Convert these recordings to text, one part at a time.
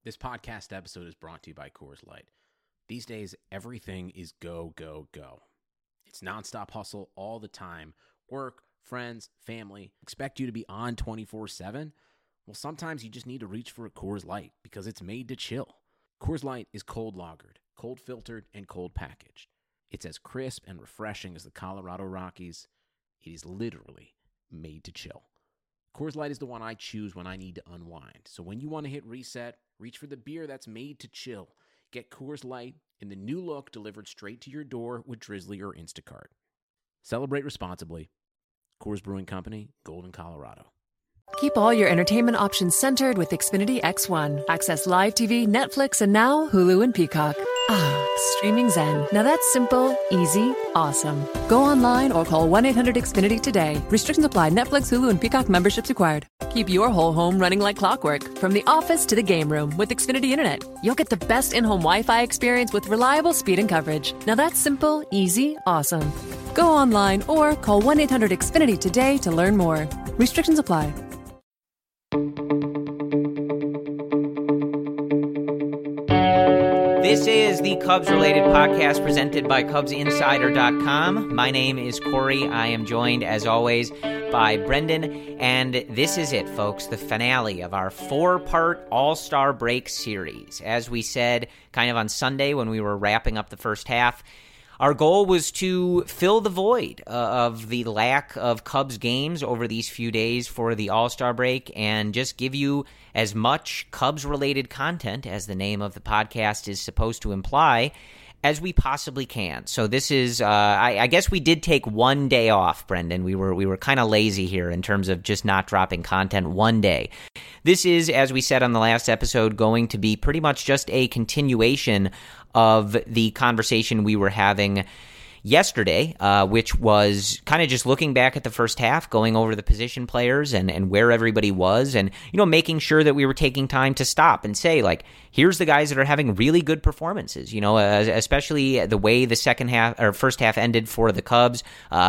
This podcast episode is brought to you by Coors Light. These days, everything is go, go, go. It's nonstop hustle all the time. Work, friends, family, expect you to be on 24/7. Well, sometimes you just need to reach for a Coors Light because it's made to chill. Coors Light is cold lagered, cold filtered, and cold packaged. It's as crisp and refreshing as the Colorado Rockies. It is literally made to chill. Coors Light is the one I choose when I need to unwind. So when you want to hit reset, reach for the beer that's made to chill. Get Coors Light in the new look delivered straight to your door with Drizzly or Instacart. Celebrate responsibly. Coors Brewing Company, Golden, Colorado. Keep all your entertainment options centered with Xfinity X1. Access live TV, Netflix, and now Hulu and Peacock. Ah, streaming zen. Now that's simple, easy, awesome. Go online or call 1-800-XFINITY today. Restrictions apply. Netflix, Hulu, and Peacock memberships required. Keep your whole home running like clockwork. From the office to the game room with Xfinity Internet. You'll get the best in-home Wi-Fi experience with reliable speed and coverage. Now that's simple, easy, awesome. Go online or call 1-800-XFINITY today to learn more. Restrictions apply. This is the Cubs-related podcast presented by CubsInsider.com. My name is Corey. I am joined, as always, by Brendan. And this is it, folks, the finale of our 4-part All-Star Break series. As we said kind of on Sunday when we were wrapping up the first half, our goal was to fill the void of the lack of Cubs games over these few days for the All-Star break and just give you as much Cubs-related content, as the name of the podcast is supposed to imply, as we possibly can. So this is, I guess we did take one day off, Brendan. We were kind of lazy here in terms of just not dropping content one day. This is, as we said on the last episode, going to be pretty much just a continuation of the conversation we were having yesterday, which was kind of just looking back at the first half, going over the position players and where everybody was, and making sure that we were taking time to stop and say, like, here's the guys that are having really good performances, especially the way the second half or first half ended for the Cubs,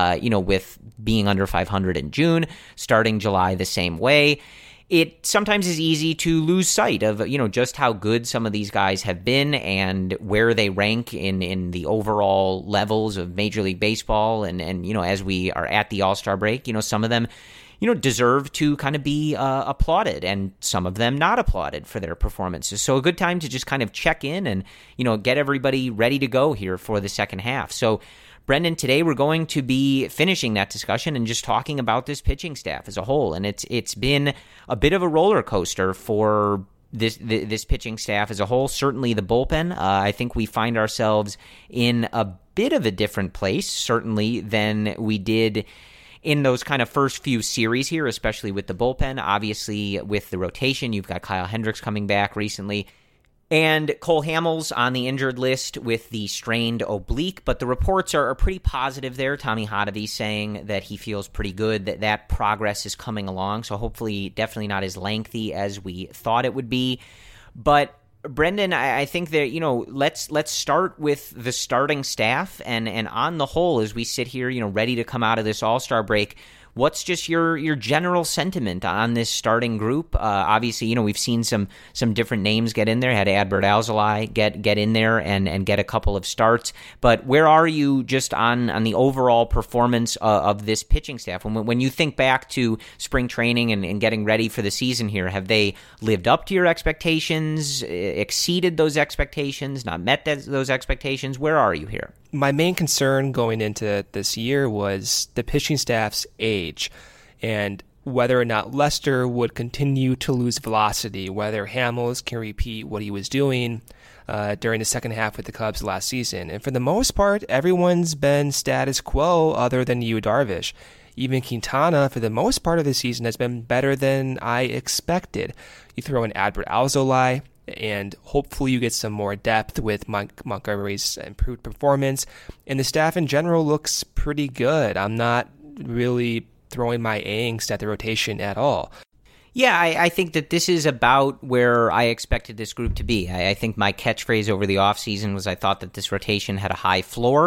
with being under 500 in June, starting July the same way. It sometimes is easy to lose sight of, just how good some of these guys have been and where they rank in the overall levels of Major League Baseball. And as we are at the All-Star break, some of them, deserve to kind of be applauded and some of them not applauded for their performances. So a good time to just kind of check in and, get everybody ready to go here for the second half. So Brendan, today we're going to be finishing that discussion and just talking about this pitching staff as a whole. And it's been a bit of a roller coaster for this pitching staff as a whole. Certainly the bullpen. I think we find ourselves in a bit of a different place, certainly, than we did in those kind of first few series here, especially with the bullpen. Obviously, with the rotation, you've got Kyle Hendricks coming back recently. And Cole Hamels on the injured list with the strained oblique, but the reports are pretty positive there. Tommy Hotovy saying that he feels pretty good, that progress is coming along, so hopefully definitely not as lengthy as we thought it would be. But Brendan, I think that, let's start with the starting staff, and on the whole, as we sit here, ready to come out of this All-Star break, what's just your general sentiment on this starting group? Obviously, we've seen some different names get in there. Had Adbert Alzolay get in there and get a couple of starts. But where are you just on the overall performance of this pitching staff? When you think back to spring training and getting ready for the season here, have they lived up to your expectations, exceeded those expectations, not met those expectations? Where are you here? My main concern going into this year was the pitching staff's age and whether or not Lester would continue to lose velocity, whether Hamels can repeat what he was doing during the second half with the Cubs last season. And for the most part, everyone's been status quo other than Yu Darvish. Even Quintana, for the most part of the season, has been better than I expected. You throw in Adbert Alzolay, and hopefully you get some more depth with Montgomery's improved performance. And the staff in general looks pretty good. I'm not really throwing my angst at the rotation at all. Yeah, I think that this is about where I expected this group to be. I think my catchphrase over the offseason was I thought that this rotation had a high floor.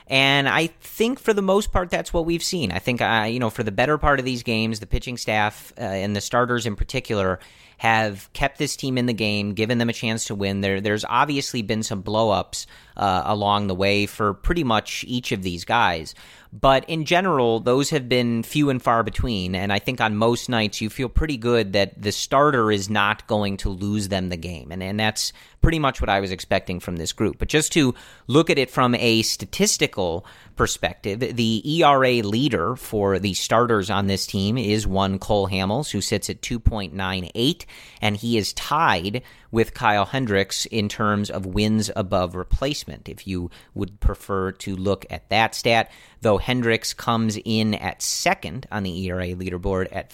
And I think for the most part, that's what we've seen. I think, for the better part of these games, the pitching staff and the starters in particular have kept this team in the game, given them a chance to win. There's obviously been some blow-ups along the way for pretty much each of these guys. But in general, those have been few and far between, and I think on most nights you feel pretty good that the starter is not going to lose them the game, and that's pretty much what I was expecting from this group. But just to look at it from a statistical perspective, the ERA leader for the starters on this team is one Cole Hamels, who sits at 2.98, and he is tied with Kyle Hendricks in terms of wins above replacement, if you would prefer to look at that stat, though Hendricks comes in at second on the ERA leaderboard at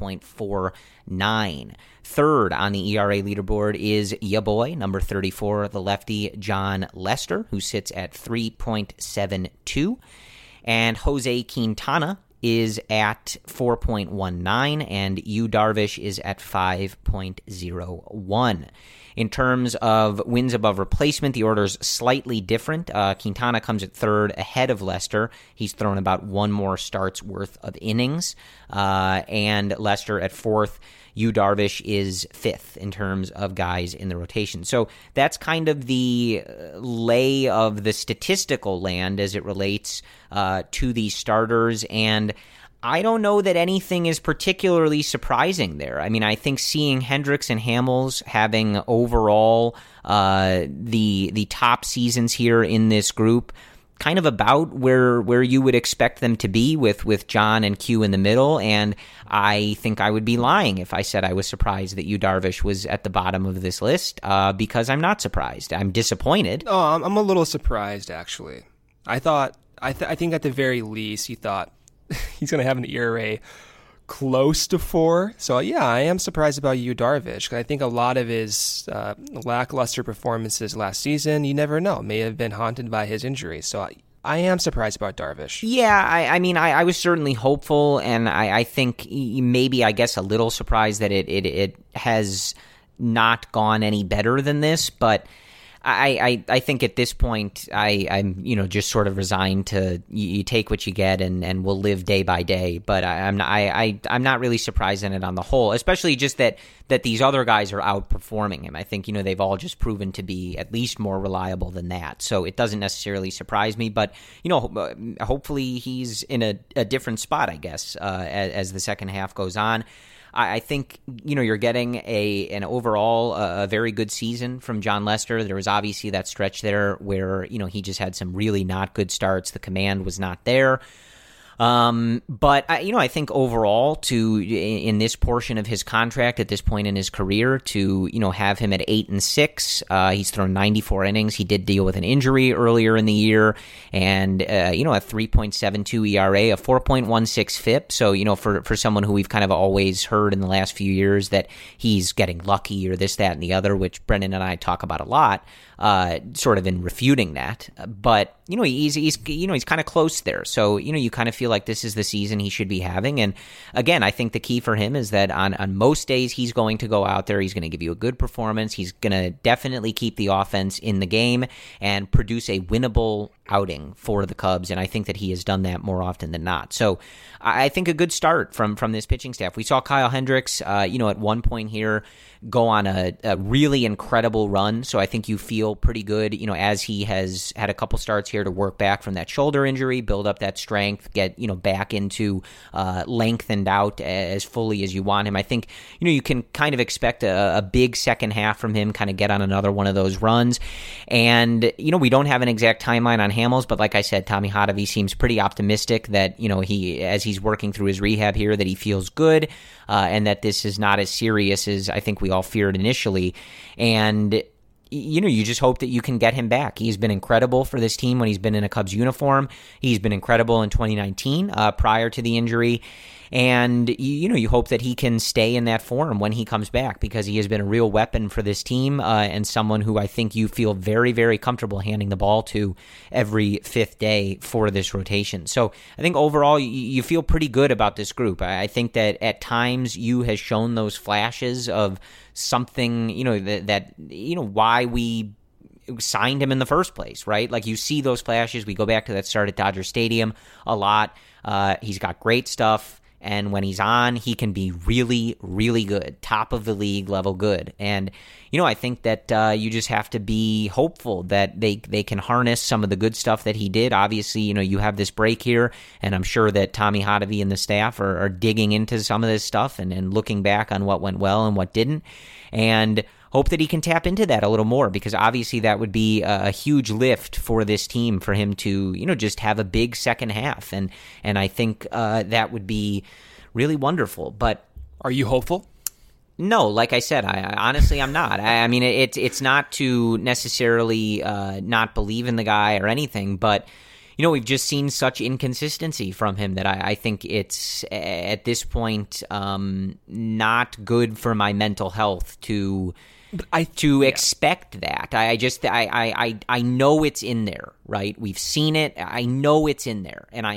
3.49. Third on the ERA leaderboard is ya boy, number 34, the lefty Jon Lester, who sits at 3.72. And Jose Quintana is at 4.19, and Yu Darvish is at 5.01. In terms of wins above replacement, the order's slightly different. Quintana comes at third ahead of Lester. He's thrown about one more starts worth of innings. And Lester at fourth. Yu Darvish is fifth in terms of guys in the rotation. So that's kind of the lay of the statistical land as it relates to these starters. And I don't know that anything is particularly surprising there. I mean, I think seeing Hendricks and Hamels having overall the top seasons here in this group, kind of about where you would expect them to be with John and Q in the middle, and I think I would be lying if I said I was surprised that Yu Darvish was at the bottom of this list, because I'm not surprised. I'm disappointed. Oh, I'm a little surprised, actually. I think at the very least you thought he's going to have an ERA close to 4. So, yeah, I am surprised about Yu Darvish. I think a lot of his lackluster performances last season, you never know, may have been haunted by his injury. So I am surprised about Darvish. Yeah, I was certainly hopeful, and I think maybe, I guess, a little surprised that it has not gone any better than this, but I think at this point I'm just sort of resigned to you take what you get and we'll live day by day. But I'm not really surprised in it on the whole, especially just that these other guys are outperforming him. I think they've all just proven to be at least more reliable than that. So it doesn't necessarily surprise me. But hopefully he's in a different spot, I guess, as the second half goes on. I think, you're getting an overall a very good season from Jon Lester. There was obviously that stretch there where, he just had some really not good starts. The command was not there. But I think overall in this portion of his contract at this point in his career to, have him at 8-6, he's thrown 94 innings. He did deal with an injury earlier in the year and, a 3.72 ERA, a 4.16 FIP. So, for someone who we've kind of always heard in the last few years that he's getting lucky or this, that, and the other, which Brendan and I talk about a lot, sort of in refuting that. But, he's kind of close there. So, you kind of feel like this is the season he should be having. And again, I think the key for him is that on most days he's going to go out there, he's going to give you a good performance, he's going to definitely keep the offense in the game and produce a winnable outing for the Cubs, and I think that he has done that more often than not. So I think a good start from this pitching staff. We saw Kyle Hendricks, at one point here go on a really incredible run, so I think you feel pretty good, as he has had a couple starts here to work back from that shoulder injury, build up that strength, get, back into lengthened out as fully as you want him. I think, you can kind of expect a big second half from him, kind of get on another one of those runs. And, we don't have an exact timeline on Hamels, but like I said, Tommy Hotovy seems pretty optimistic that, he, as he's working through his rehab here, that he feels good, and that this is not as serious as I think we all feared initially. And you just hope that you can get him back. He's been incredible for this team when he's been in a Cubs uniform. He's been incredible in 2019 prior to the injury. And, you hope that he can stay in that form when he comes back, because he has been a real weapon for this team and someone who I think you feel very, very comfortable handing the ball to every fifth day for this rotation. So I think overall you feel pretty good about this group. I think that at times you has shown those flashes of something, that why we signed him in the first place, right? Like, you see those flashes. We go back to that start at Dodger Stadium a lot. He's got great stuff, and when he's on, he can be really, really good, top of the league level good. And, I think that you just have to be hopeful that they can harness some of the good stuff that he did. Obviously, you have this break here, and I'm sure that Tommy Hotovy and the staff are digging into some of this stuff and looking back on what went well and what didn't. And hope that he can tap into that a little more, because obviously that would be a huge lift for this team for him to, just have a big second half. And I think that would be really wonderful. But are you hopeful? No, like I said, I honestly, I'm not. I mean, it's not to necessarily not believe in the guy or anything, but we've just seen such inconsistency from him that I think it's, at this point, not good for my mental health to expect that. I know it's in there, right? We've seen it. I know it's in there, and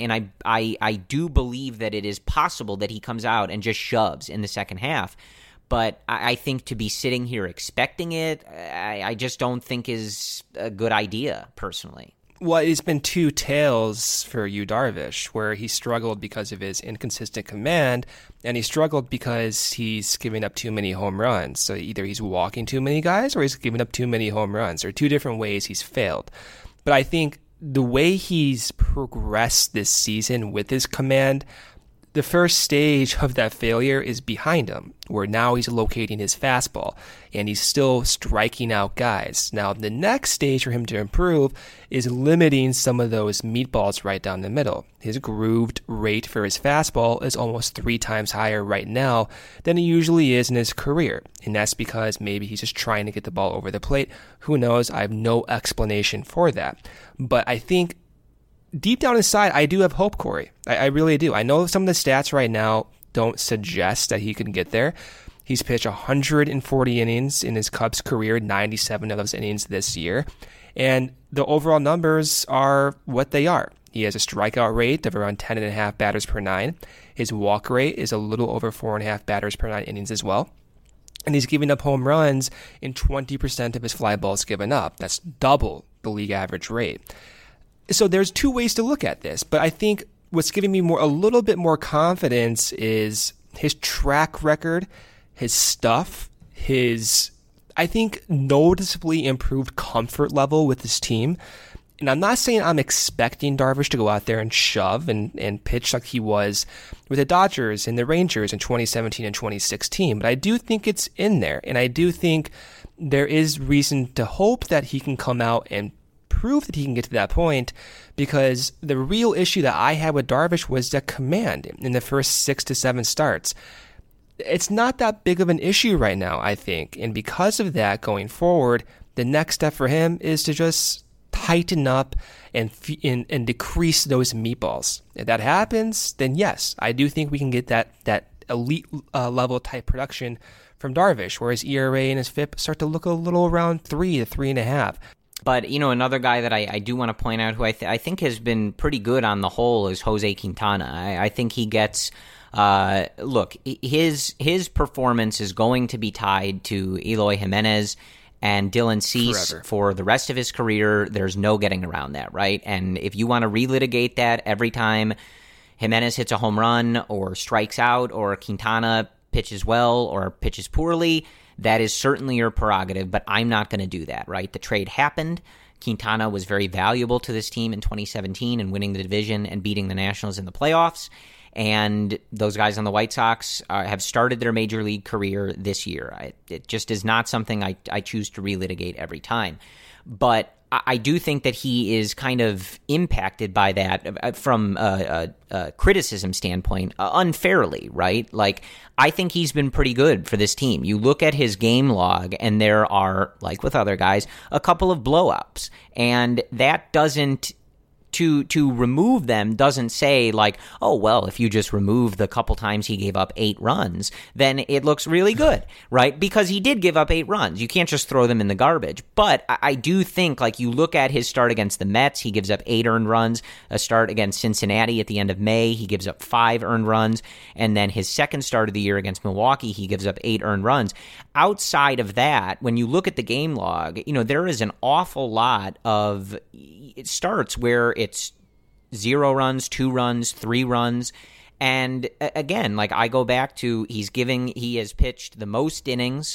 I do believe that it is possible that he comes out and just shoves in the second half. But I think to be sitting here expecting it, I just don't think is a good idea, personally. Well, it's been two tales for Yu Darvish, where he struggled because of his inconsistent command, and he struggled because he's giving up too many home runs. So either he's walking too many guys or he's giving up too many home runs. There are two different ways he's failed. But I think the way he's progressed this season with his command, the first stage of that failure is behind him, where now he's locating his fastball, and he's still striking out guys. Now, the next stage for him to improve is limiting some of those meatballs right down the middle. His grooved rate for his fastball is almost 3 times higher right now than it usually is in his career, and that's because maybe he's just trying to get the ball over the plate. Who knows? I have no explanation for that. But I think deep down inside, I do have hope, Corey. I really do. I know some of the stats right now don't suggest that he can get there. He's pitched 140 innings in his Cubs career, 97 of those innings this year. And the overall numbers are what they are. He has a strikeout rate of around 10.5 batters per 9. His walk rate is a little over 4.5 batters per 9 innings as well. And he's giving up home runs in 20% of his fly balls given up. That's double the league average rate. So there's two ways to look at this, but I think what's giving me a little bit more confidence is his track record, his stuff, his, I think, noticeably improved comfort level with his team. And I'm not saying I'm expecting Darvish to go out there and shove and pitch like he was with the Dodgers and the Rangers in 2017 and 2016, but I do think it's in there, and I do think there is reason to hope that he can come out and prove that he can get to that point, because the real issue that I had with Darvish was the command in the first 6 to 7 starts. It's not that big of an issue right now, I think, and because of that, going forward, the next step for him is to just tighten up and decrease those meatballs. If that happens, then yes, I do think we can get that elite level type production from Darvish, where his ERA and his FIP start to look a little around 3 to 3.5. But, another guy that I do want to point out who I think has been pretty good on the whole is Jose Quintana. I think he gets, look, his performance is going to be tied to Eloy Jimenez and Dylan Cease forever for the rest of his career. There's no getting around that, right? And if you want to relitigate that every time Jimenez hits a home run or strikes out or Quintana pitches well or pitches poorly, that is certainly your prerogative, but I'm not going to do that, right? The trade happened. Quintana was very valuable to this team in 2017 and winning the division and beating the Nationals in the playoffs. And those guys on the White Sox have started their major league career this year. It just is not something I choose to relitigate every time. But I do think that he is kind of impacted by that from a criticism standpoint unfairly, right? Like, I think he's been pretty good for this team. You look at his game log, and there are, like with other guys, a couple of blowups. And that doesn't to remove them doesn't say like, oh, well, if you just remove the couple times he gave up 8 runs, then it looks really good, right? Because he did give up 8 runs. You can't just throw them in the garbage. But I do think, like, you look at his start against the Mets, he gives up 8 earned runs. A start against Cincinnati at the end of May, he gives up 5 earned runs. And then his second start of the year against Milwaukee, he gives up 8 earned runs. Outside of that, when you look at the game log, there is an awful lot of starts where it's 0 runs, 2 runs, 3 runs. And again, like, I go back to he has pitched the most innings,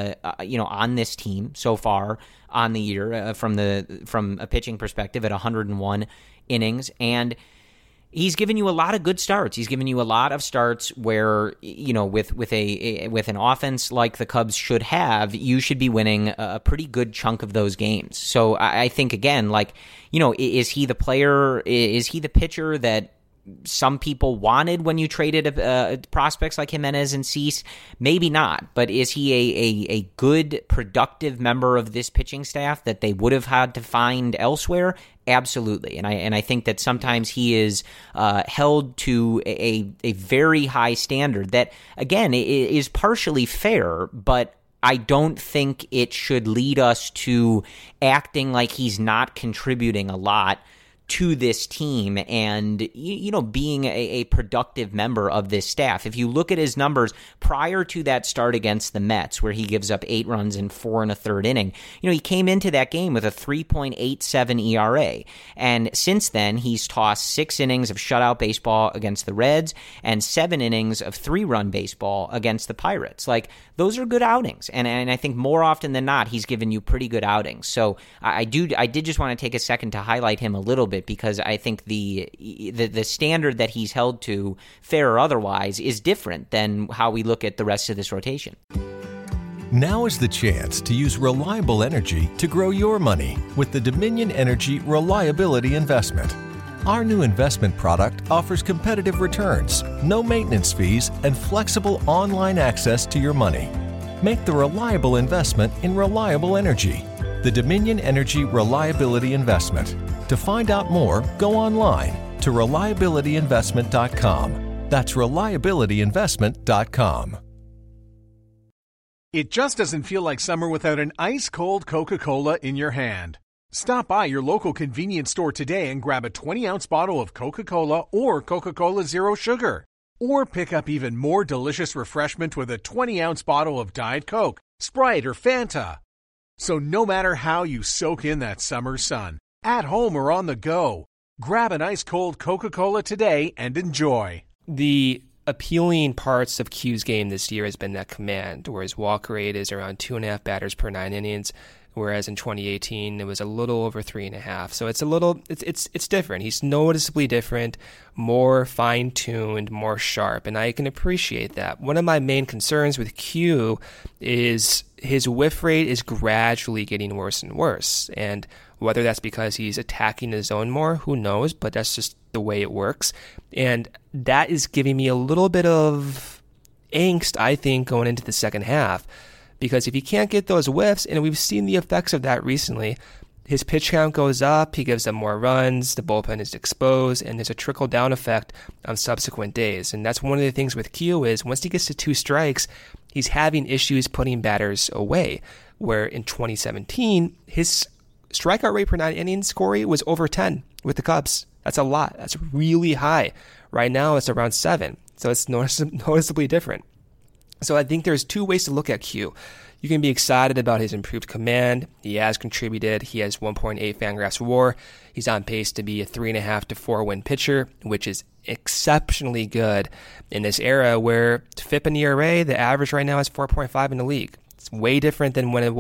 on this team so far on the year from a pitching perspective at 101 innings. And he's given you a lot of good starts. He's given you a lot of starts where, with an offense like the Cubs should have, you should be winning a pretty good chunk of those games. So I think, again, like, is he the player? Is he the pitcher that some people wanted when you traded prospects like Jimenez and Cease? Maybe not, but is he a good, productive member of this pitching staff that they would have had to find elsewhere? Absolutely, and I think that sometimes he is held to a very high standard that, again, is partially fair, but I don't think it should lead us to acting like he's not contributing a lot to this team and, being a productive member of this staff. If you look at his numbers prior to that start against the Mets, where he gives up 8 runs in 4 1/3 inning, he came into that game with a 3.87 ERA. And since then, he's tossed 6 innings of shutout baseball against the Reds and 7 innings of 3-run baseball against the Pirates. Like, those are good outings. And I think more often than not, he's given you pretty good outings. So I did just want to take a second to highlight him a little bit, because I think the standard that he's held to, fair or otherwise, is different than how we look at the rest of this rotation. Now is the chance to use reliable energy to grow your money with the Dominion Energy Reliability Investment. Our new investment product offers competitive returns, no maintenance fees, and flexible online access to your money. Make the reliable investment in reliable energy. The Dominion Energy Reliability Investment. To find out more, go online to reliabilityinvestment.com. That's reliabilityinvestment.com. It just doesn't feel like summer without an ice-cold Coca-Cola in your hand. Stop by your local convenience store today and grab a 20-ounce bottle of Coca-Cola or Coca-Cola Zero Sugar. Or pick up even more delicious refreshment with a 20-ounce bottle of Diet Coke, Sprite, or Fanta. So no matter how you soak in that summer sun, at home or on the go, grab an ice-cold Coca-Cola today and enjoy. The appealing parts of Q's game this year has been that command, where his walk rate is around 2.5 batters per 9 innings, whereas in 2018 it was a little over 3.5. So it's different. He's noticeably different, more fine-tuned, more sharp, and I can appreciate that. One of my main concerns with Q is his whiff rate is gradually getting worse and worse, and whether that's because he's attacking the zone more, who knows, but that's just the way it works. And that is giving me a little bit of angst, I think, going into the second half. Because if he can't get those whiffs, and we've seen the effects of that recently, his pitch count goes up, he gives up more runs, the bullpen is exposed, and there's a trickle-down effect on subsequent days. And that's one of the things with Q is once he gets to 2 strikes, he's having issues putting batters away. Where in 2017, his strikeout rate per 9 innings, Corey, was over 10 with the Cubs. That's a lot. That's really high. Right now, it's around 7. So it's noticeably different. So I think there's 2 ways to look at Q. You can be excited about his improved command. He has contributed. He has 1.8 Fangraphs WAR. He's on pace to be a 3.5 to 4 win pitcher, which is exceptionally good in this era where FIP and ERA, the average right now is 4.5 in the league. It's way different than what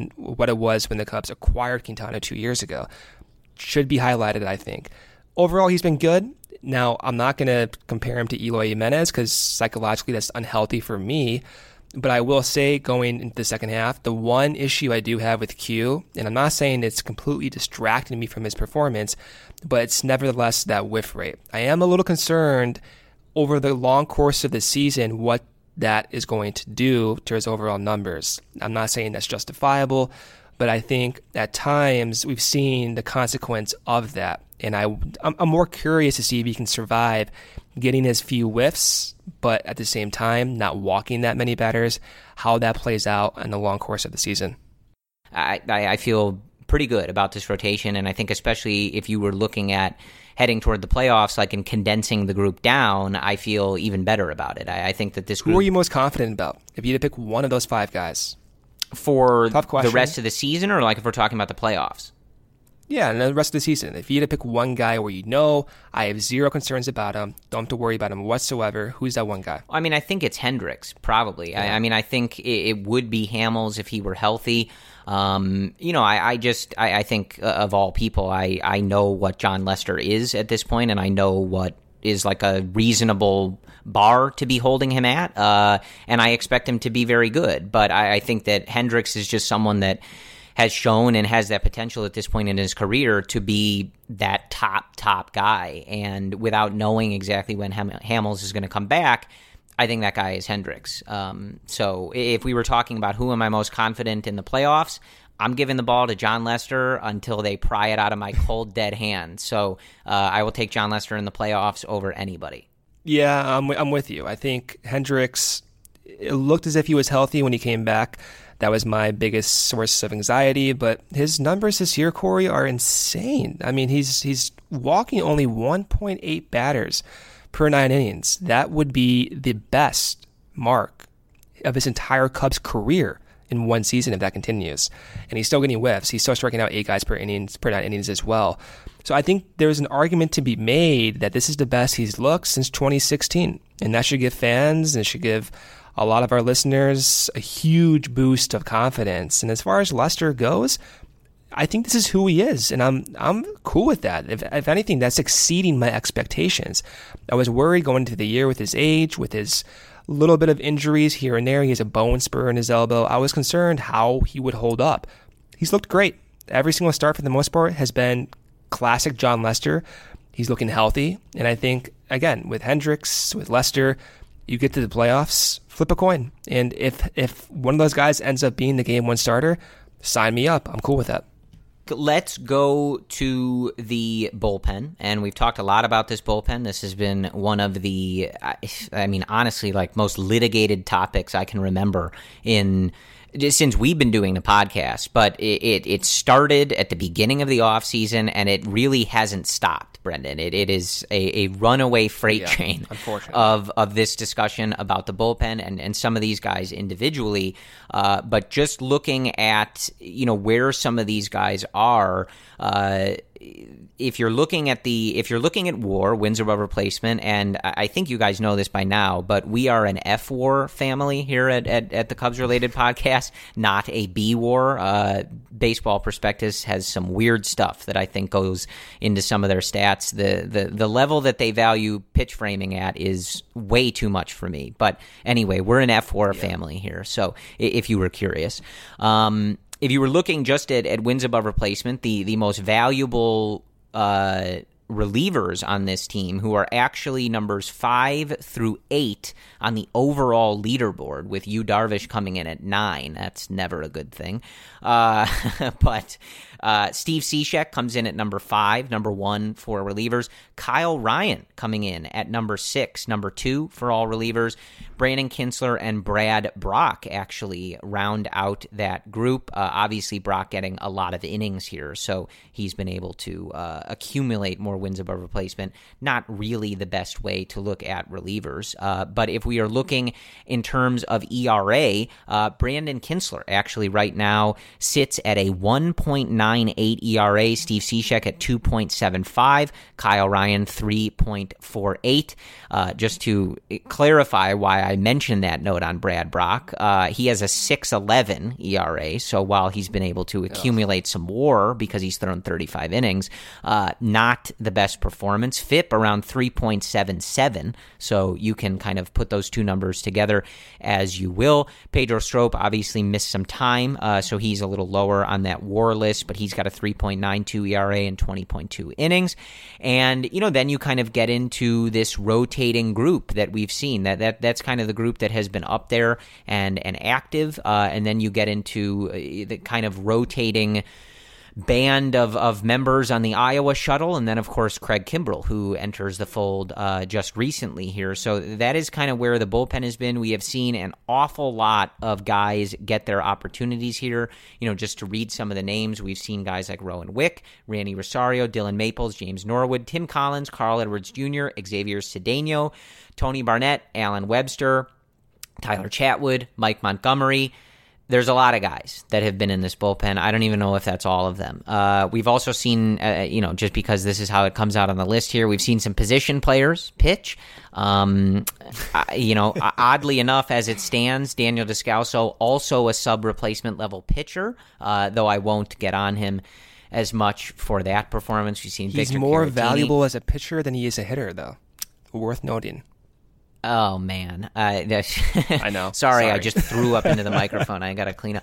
it was when the Cubs acquired Quintana 2 years ago. Should be highlighted, I think. Overall, he's been good. Now, I'm not going to compare him to Eloy Jimenez because psychologically that's unhealthy for me. But I will say, going into the second half, the one issue I do have with Q, and I'm not saying it's completely distracting me from his performance, but it's nevertheless that whiff rate. I am a little concerned over the long course of the season what that is going to do to his overall numbers. I'm not saying that's justifiable, but I think at times we've seen the consequence of that. And I'm more curious to see if he can survive getting his few whiffs, but at the same time, not walking that many batters, how that plays out in the long course of the season. I feel pretty good about this rotation, and I think especially if you were looking at heading toward the playoffs, like in condensing the group down, I feel even better about it. I think that this group... Who are you most confident about? If you had to pick one of those 5 guys. For the rest of the season, or like if we're talking about the playoffs? Yeah, and the rest of the season. If you had to pick one guy where I have zero concerns about him, don't have to worry about him whatsoever, who's that one guy? I mean, I think it's Hendricks, probably. Yeah. I mean, I think it would be Hamels if he were healthy. I think of all people, I know what Jon Lester is at this point, and I know what is like a reasonable bar to be holding him at, and I expect him to be very good. But I think that Hendricks is just someone that has shown and has that potential at this point in his career to be that top guy. And without knowing exactly when Hamels is going to come back, I think that guy is Hendricks. So if we were talking about who am I most confident in the playoffs, I'm giving the ball to Jon Lester until they pry it out of my cold, dead hand. So I will take Jon Lester in the playoffs over anybody. Yeah, I'm with you. I think Hendricks, it looked as if he was healthy when he came back. That was my biggest source of anxiety, but his numbers this year, Corey, are insane. I mean, he's walking only 1.8 batters per 9 innings. That would be the best mark of his entire Cubs career in one season if that continues. And he's still getting whiffs. He's still striking out 8 guys per 9 innings as well. So I think there's an argument to be made that this is the best he's looked since 2016. And that should give fans, and it should give a lot of our listeners a huge boost of confidence. And as far as Lester goes, I think this is who he is, and I'm cool with that. If anything, that's exceeding my expectations. I was worried going into the year with his age, with his little bit of injuries here and there. He has a bone spur in his elbow. I was concerned how he would hold up. He's looked great. Every single start for the most part has been classic Jon Lester. He's looking healthy, and I think, again, with Hendricks, with Lester, you get to the playoffs, flip a coin. And if one of those guys ends up being the game 1 starter, sign me up. I'm cool with that. Let's go to the bullpen, and we've talked a lot about this bullpen. This has been one of the, honestly, like most litigated topics I can remember since we've been doing the podcast. But it started at the beginning of the offseason, and it really hasn't stopped, Brendan. It is a runaway freight train of this discussion about the bullpen and some of these guys individually. But just looking at where some of these guys are, if you're looking at WAR, wins above replacement, and I think you guys know this by now, but we are an F-WAR family here at the Cubs related podcast, not a B-WAR. Baseball Prospectus has some weird stuff that I think goes into some of their stats. The level that they value pitch framing at is way too much for me. But anyway, we're an F-WAR family here. So if you were curious, if you were looking just at wins above replacement, the most valuable relievers on this team, who are actually numbers 5 through 8 on the overall leaderboard, with Yu Darvish coming in at 9. That's never a good thing. But Steve Cishek comes in at number 5, number 1 for relievers. Kyle Ryan coming in at number 6, number 2 for all relievers. Brandon Kintzler and Brad Brach actually round out that group. Obviously, Brach getting a lot of innings here, so he's been able to accumulate more wins above replacement. Not really the best way to look at relievers. But if we are looking in terms of ERA, Brandon Kintzler actually right now sits at a 1.98 ERA. Steve Cishek at 2.75. Kyle Ryan 3.48. Just to clarify why I mentioned that note on Brad Brach, he has a 6.11 ERA, so while he's been able to accumulate some WAR because he's thrown 35 innings, not the best performance. FIP around 3.77, so you can kind of put those two numbers together as you will. Pedro Strop obviously missed some time, so he's a little lower on that WAR list, but he's got a 3.92 ERA and 20.2 innings. And, then you kind of get into this rotating group that we've seen. That's kind of the group that has been up there and active. And then you get into the kind of rotating band of members on the Iowa shuttle, and then, of course, Craig Kimbrell, who enters the fold just recently here. So that is kind of where the bullpen has been. We have seen an awful lot of guys get their opportunities here. Just to read some of the names, we've seen guys like Rowan Wick, Randy Rosario, Dylan Maples, James Norwood, Tim Collins, Carl Edwards Jr., Xavier Cedeno, Tony Barnett, Alan Webster, Tyler Chatwood, Mike Montgomery. There's a lot of guys that have been in this bullpen. I don't even know if that's all of them. We've also seen, just because this is how it comes out on the list here, we've seen some position players pitch. Oddly enough, as it stands, Daniel Descalso, also a sub-replacement level pitcher, though I won't get on him as much for that performance. We've seen He's Victor more Caratini. valuable as a pitcher than he is a hitter, though. Worth noting. Oh, man. I know. Sorry, I just threw up into the microphone. I got to clean up.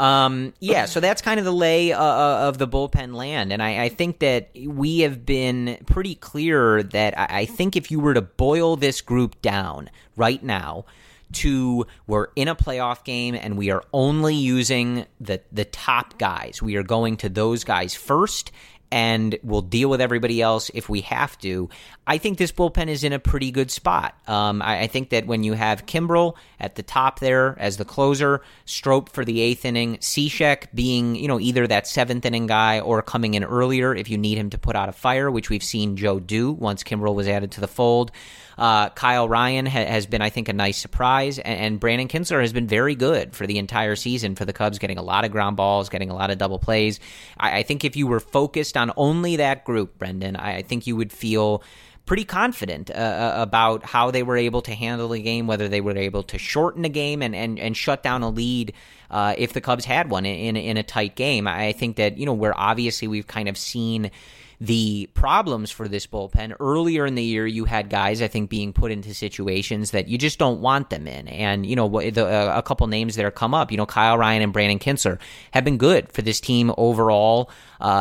So that's kind of the lay of the bullpen land. And I think that we have been pretty clear that I think if you were to boil this group down right now to we're in a playoff game and we are only using the top guys, we are going to those guys first, and we'll deal with everybody else if we have to. I think this bullpen is in a pretty good spot. I think that when you have Kimbrell at the top there as the closer, Strop for the 8th inning, Cishek being either that 7th inning guy or coming in earlier if you need him to put out a fire, which we've seen Joe do once Kimbrell was added to the fold. Kyle Ryan has been, I think, a nice surprise, and Brandon Kintzler has been very good for the entire season for the Cubs, getting a lot of ground balls, getting a lot of double plays. I think if you were focused on only that group, Brendan, I think you would feel pretty confident about how they were able to handle the game, whether they were able to shorten a game and shut down a lead if the Cubs had one in a tight game. I think that, where obviously we've kind of seen the problems for this bullpen. Earlier in the year, you had guys, I think, being put into situations that you just don't want them in. And, a couple names that are come up, Kyle Ryan and Brandon Kintzler have been good for this team overall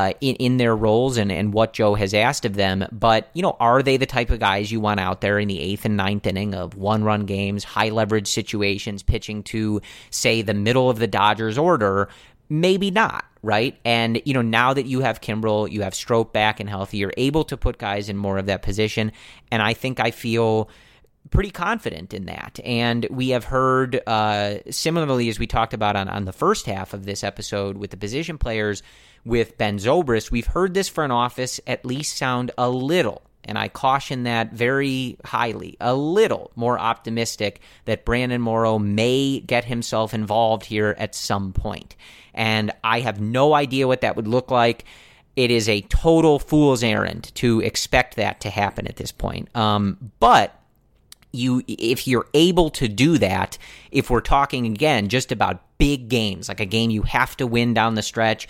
in their roles and what Joe has asked of them. But, are they the type of guys you want out there in the 8th and 9th inning of one-run games, high-leverage situations, pitching to, say, the middle of the Dodgers order? Maybe not, right? And, now that you have Kimbrell, you have Strop back and healthy, you're able to put guys in more of that position. And I think I feel pretty confident in that. And we have heard, similarly, as we talked about on the first half of this episode with the position players with Ben Zobrist, we've heard this front office at least sound a little, and I caution that very highly, a little more optimistic that Brandon Morrow may get himself involved here at some point. And I have no idea what that would look like. It is a total fool's errand to expect that to happen at this point. But if you're able to do that, if we're talking again just about big games, like a game you have to win down the stretch,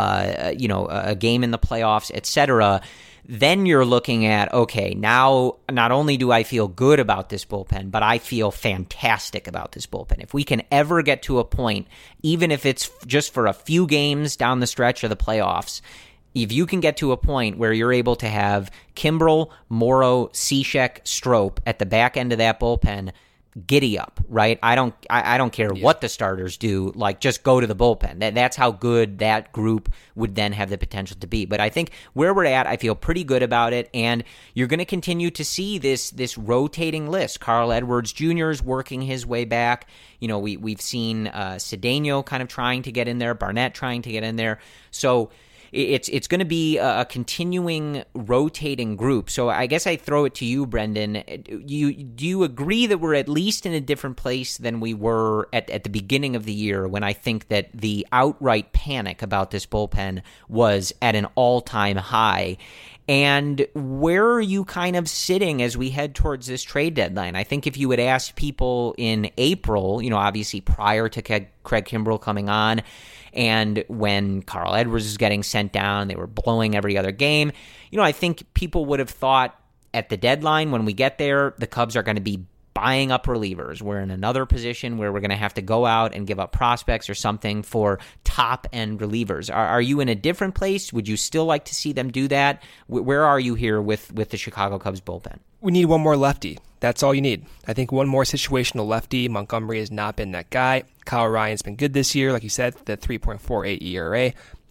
a game in the playoffs, etc., then you're looking at, okay, now not only do I feel good about this bullpen, but I feel fantastic about this bullpen. If we can ever get to a point, even if it's just for a few games down the stretch of the playoffs, if you can get to a point where you're able to have Kimbrell, Morrow, Cishek, Strop at the back end of that bullpen, giddy up, right? I don't care what the starters do. Like, just go to the bullpen. That's how good that group would then have the potential to be. But I think where we're at, I feel pretty good about it. And you're going to continue to see this rotating list. Carl Edwards Jr. is working his way back. We've seen Cedeno kind of trying to get in there, Barnett trying to get in there. So it's going to be a continuing rotating group. So I guess I throw it to you, Brendan. Do you agree that we're at least in a different place than we were at the beginning of the year, when I think that the outright panic about this bullpen was at an all-time high? And where are you kind of sitting as we head towards this trade deadline? I think if you had asked people in April, obviously prior to Craig Kimbrell coming on, and when Carl Edwards was getting sent down, they were blowing every other game. I think people would have thought at the deadline, when we get there, the Cubs are going to be buying up relievers. We're in another position where we're going to have to go out and give up prospects or something for top-end relievers. Are you in a different place? Would you still like to see them do that? Where are you here with the Chicago Cubs bullpen? We need one more lefty. That's all you need. I think one more situational lefty. Montgomery has not been that guy. Kyle Ryan's been good this year, like you said, the 3.48 ERA.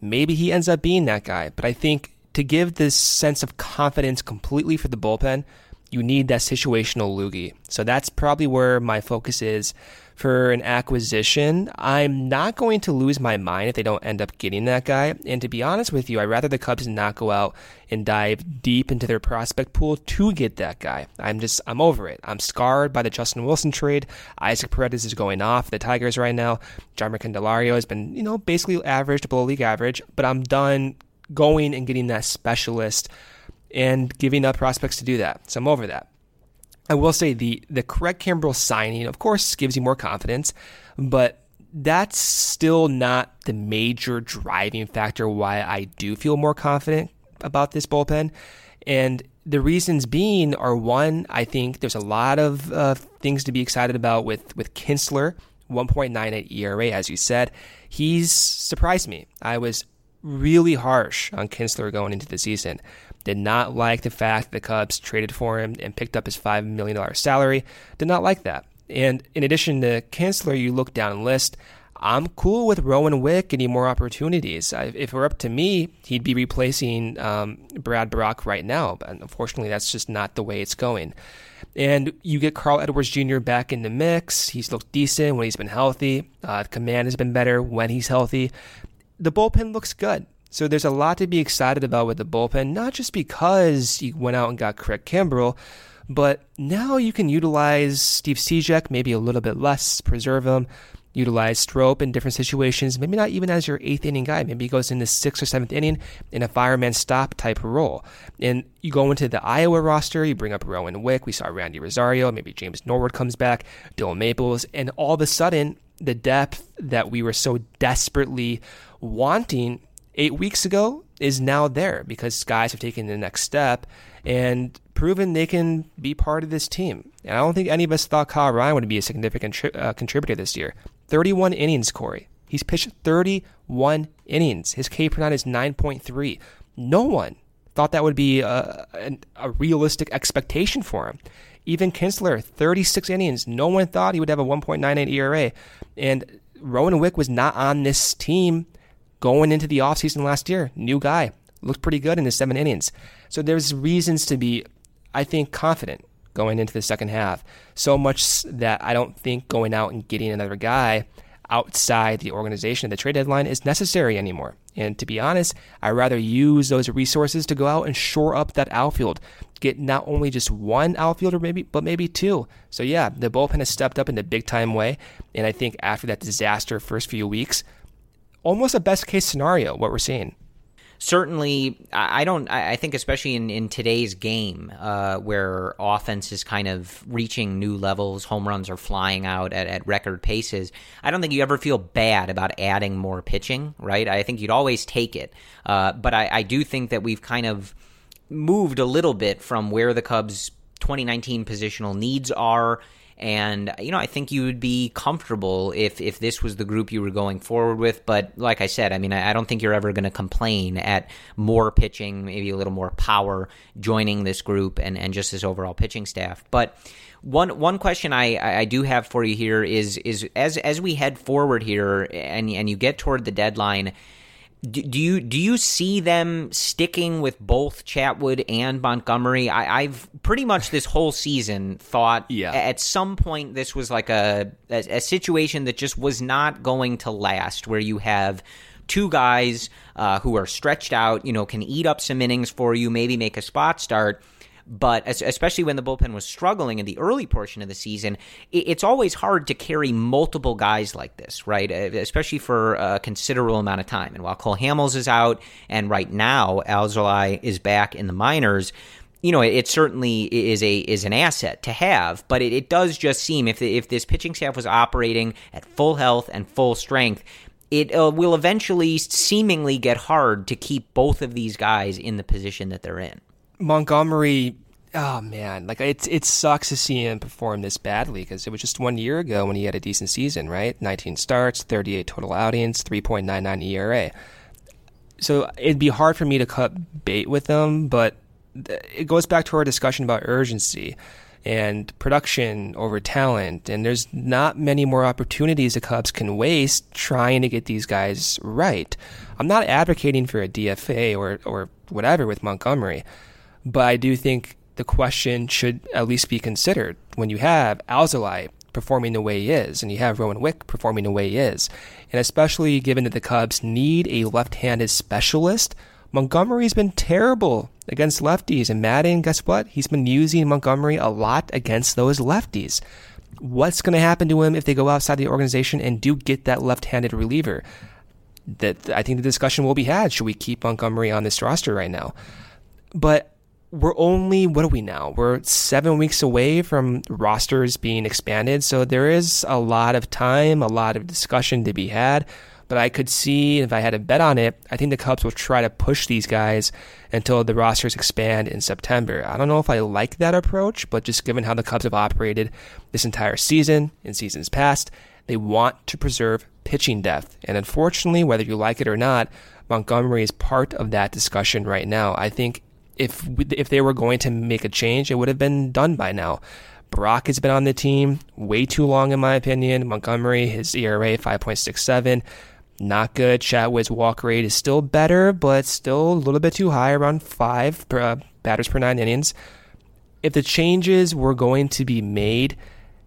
maybe he ends up being that guy. But I think to give this sense of confidence completely for the bullpen, you need that situational loogie. So that's probably where my focus is for an acquisition. I'm not going to lose my mind if they don't end up getting that guy. And to be honest with you, I'd rather the Cubs not go out and dive deep into their prospect pool to get that guy. I'm over it. I'm scarred by the Justin Wilson trade. Isaac Paredes is going off the Tigers right now. Jarmer Candelario has been, basically average to below league average, but I'm done going and getting that specialist and giving up prospects to do that. So I'm over that. I will say the Craig Kimbrel signing, of course, gives you more confidence, but that's still not the major driving factor why I do feel more confident about this bullpen. And the reasons being are, one, I think there's a lot of things to be excited about with Kinsler, 1.98 ERA, as you said. He's surprised me. I was really harsh on Kinsler going into the season. Did not like the fact the Cubs traded for him and picked up his $5 million salary. Did not like that. And in addition to Kinsler, you look down the list, I'm cool with Rowan Wick getting more opportunities. If it were up to me, he'd be replacing Brad Brock right now. But unfortunately, that's just not the way it's going. And you get Carl Edwards Jr. back in the mix. He's looked decent when he's been healthy. Command has been better when he's healthy. The bullpen looks good. So there's a lot to be excited about with the bullpen, not just because you went out and got Craig Kimbrel, but now you can utilize Steve Cishek maybe a little bit less, preserve him, utilize Strop in different situations, maybe not even as your 8th inning guy. Maybe he goes in the 6th or 7th inning in a fireman stop type of role. And you go into the Iowa roster, you bring up Rowan Wick, we saw Randy Rosario, maybe James Norwood comes back, Dylan Maples, and all of a sudden, the depth that we were so desperately wanting 8 weeks ago is now there because guys have taken the next step and proven they can be part of this team. And I don't think any of us thought Kyle Ryan would be a significant contributor this year. 31 innings, Corey. He's pitched 31 innings. His K per nine is 9.3. No one thought that would be a realistic expectation for him. Even Kinsler, 36 innings. No one thought he would have a 1.98 ERA. And Rowan Wick was not on this team going into the offseason last year. New guy. Looked pretty good in his 7 innings. So there's reasons to be, I think, confident going into the second half. So much that I don't think going out and getting another guy outside the organization at the trade deadline is necessary anymore. And to be honest, I'd rather use those resources to go out and shore up that outfield. Get not only just one outfielder, but maybe 2. So yeah, the bullpen has stepped up in a big time way. And I think after that disaster first few weeks, almost a best case scenario, what we're seeing. Certainly, I think especially in today's game where offense is kind of reaching new levels, home runs are flying out at record paces, I don't think you ever feel bad about adding more pitching, right? I think you'd always take it. But I do think that we've kind of moved a little bit from where the Cubs' 2019 positional needs are. And, I think you would be comfortable if this was the group you were going forward with. But like I said, I don't think you're ever going to complain at more pitching, maybe a little more power joining this group and just this overall pitching staff. But one question I do have for you here is as we head forward here and you get toward the deadline, do you see them sticking with both Chatwood and Montgomery? I've pretty much this whole season thought at some point this was like a situation that just was not going to last, where you have 2 guys who are stretched out, can eat up some innings for you, maybe make a spot start. But especially when the bullpen was struggling in the early portion of the season, it's always hard to carry multiple guys like this, right? Especially for a considerable amount of time. And while Cole Hamels is out, and right now Alzolay is back in the minors, it certainly is an asset to have. But it does just seem if this pitching staff was operating at full health and full strength, it will eventually seemingly get hard to keep both of these guys in the position that they're in. Montgomery, oh man, it sucks to see him perform this badly because it was just 1 year ago when he had a decent season, right? 19 starts, 38 total outings, 3.99 ERA. So it'd be hard for me to cut bait with them, but it goes back to our discussion about urgency. and production over talent. And there's not many more opportunities the Cubs can waste trying to get these guys right. I'm not advocating for a DFA or whatever with Montgomery, but I do think the question should at least be considered when you have Alzolay performing the way he is, and you have Rowan Wick performing the way he is. And especially given that the Cubs need a left-handed specialist, Montgomery's been terrible against lefties. And Madden, guess what? He's been using Montgomery a lot against those lefties. What's going to happen to him if they go outside the organization and do get that left-handed reliever? That I think the discussion will be had. Should we keep Montgomery on this roster right now? But we're only, what are we now? We're 7 weeks away from rosters being expanded. So there is a lot of time, a lot of discussion to be had. But I could see, if I had to bet on it, I think the Cubs will try to push these guys until the rosters expand in September. I don't know if I like that approach, but just given how the Cubs have operated this entire season, in seasons past, they want to preserve pitching depth. And unfortunately, whether you like it or not, Montgomery is part of that discussion right now. I think if they were going to make a change, it would have been done by now. Brock has been on the team way too long, in my opinion. Montgomery, his ERA 5.67, not good. Chatwood's walk rate is still better, but still a little bit too high, around 5 batters per 9 innings. If the changes were going to be made,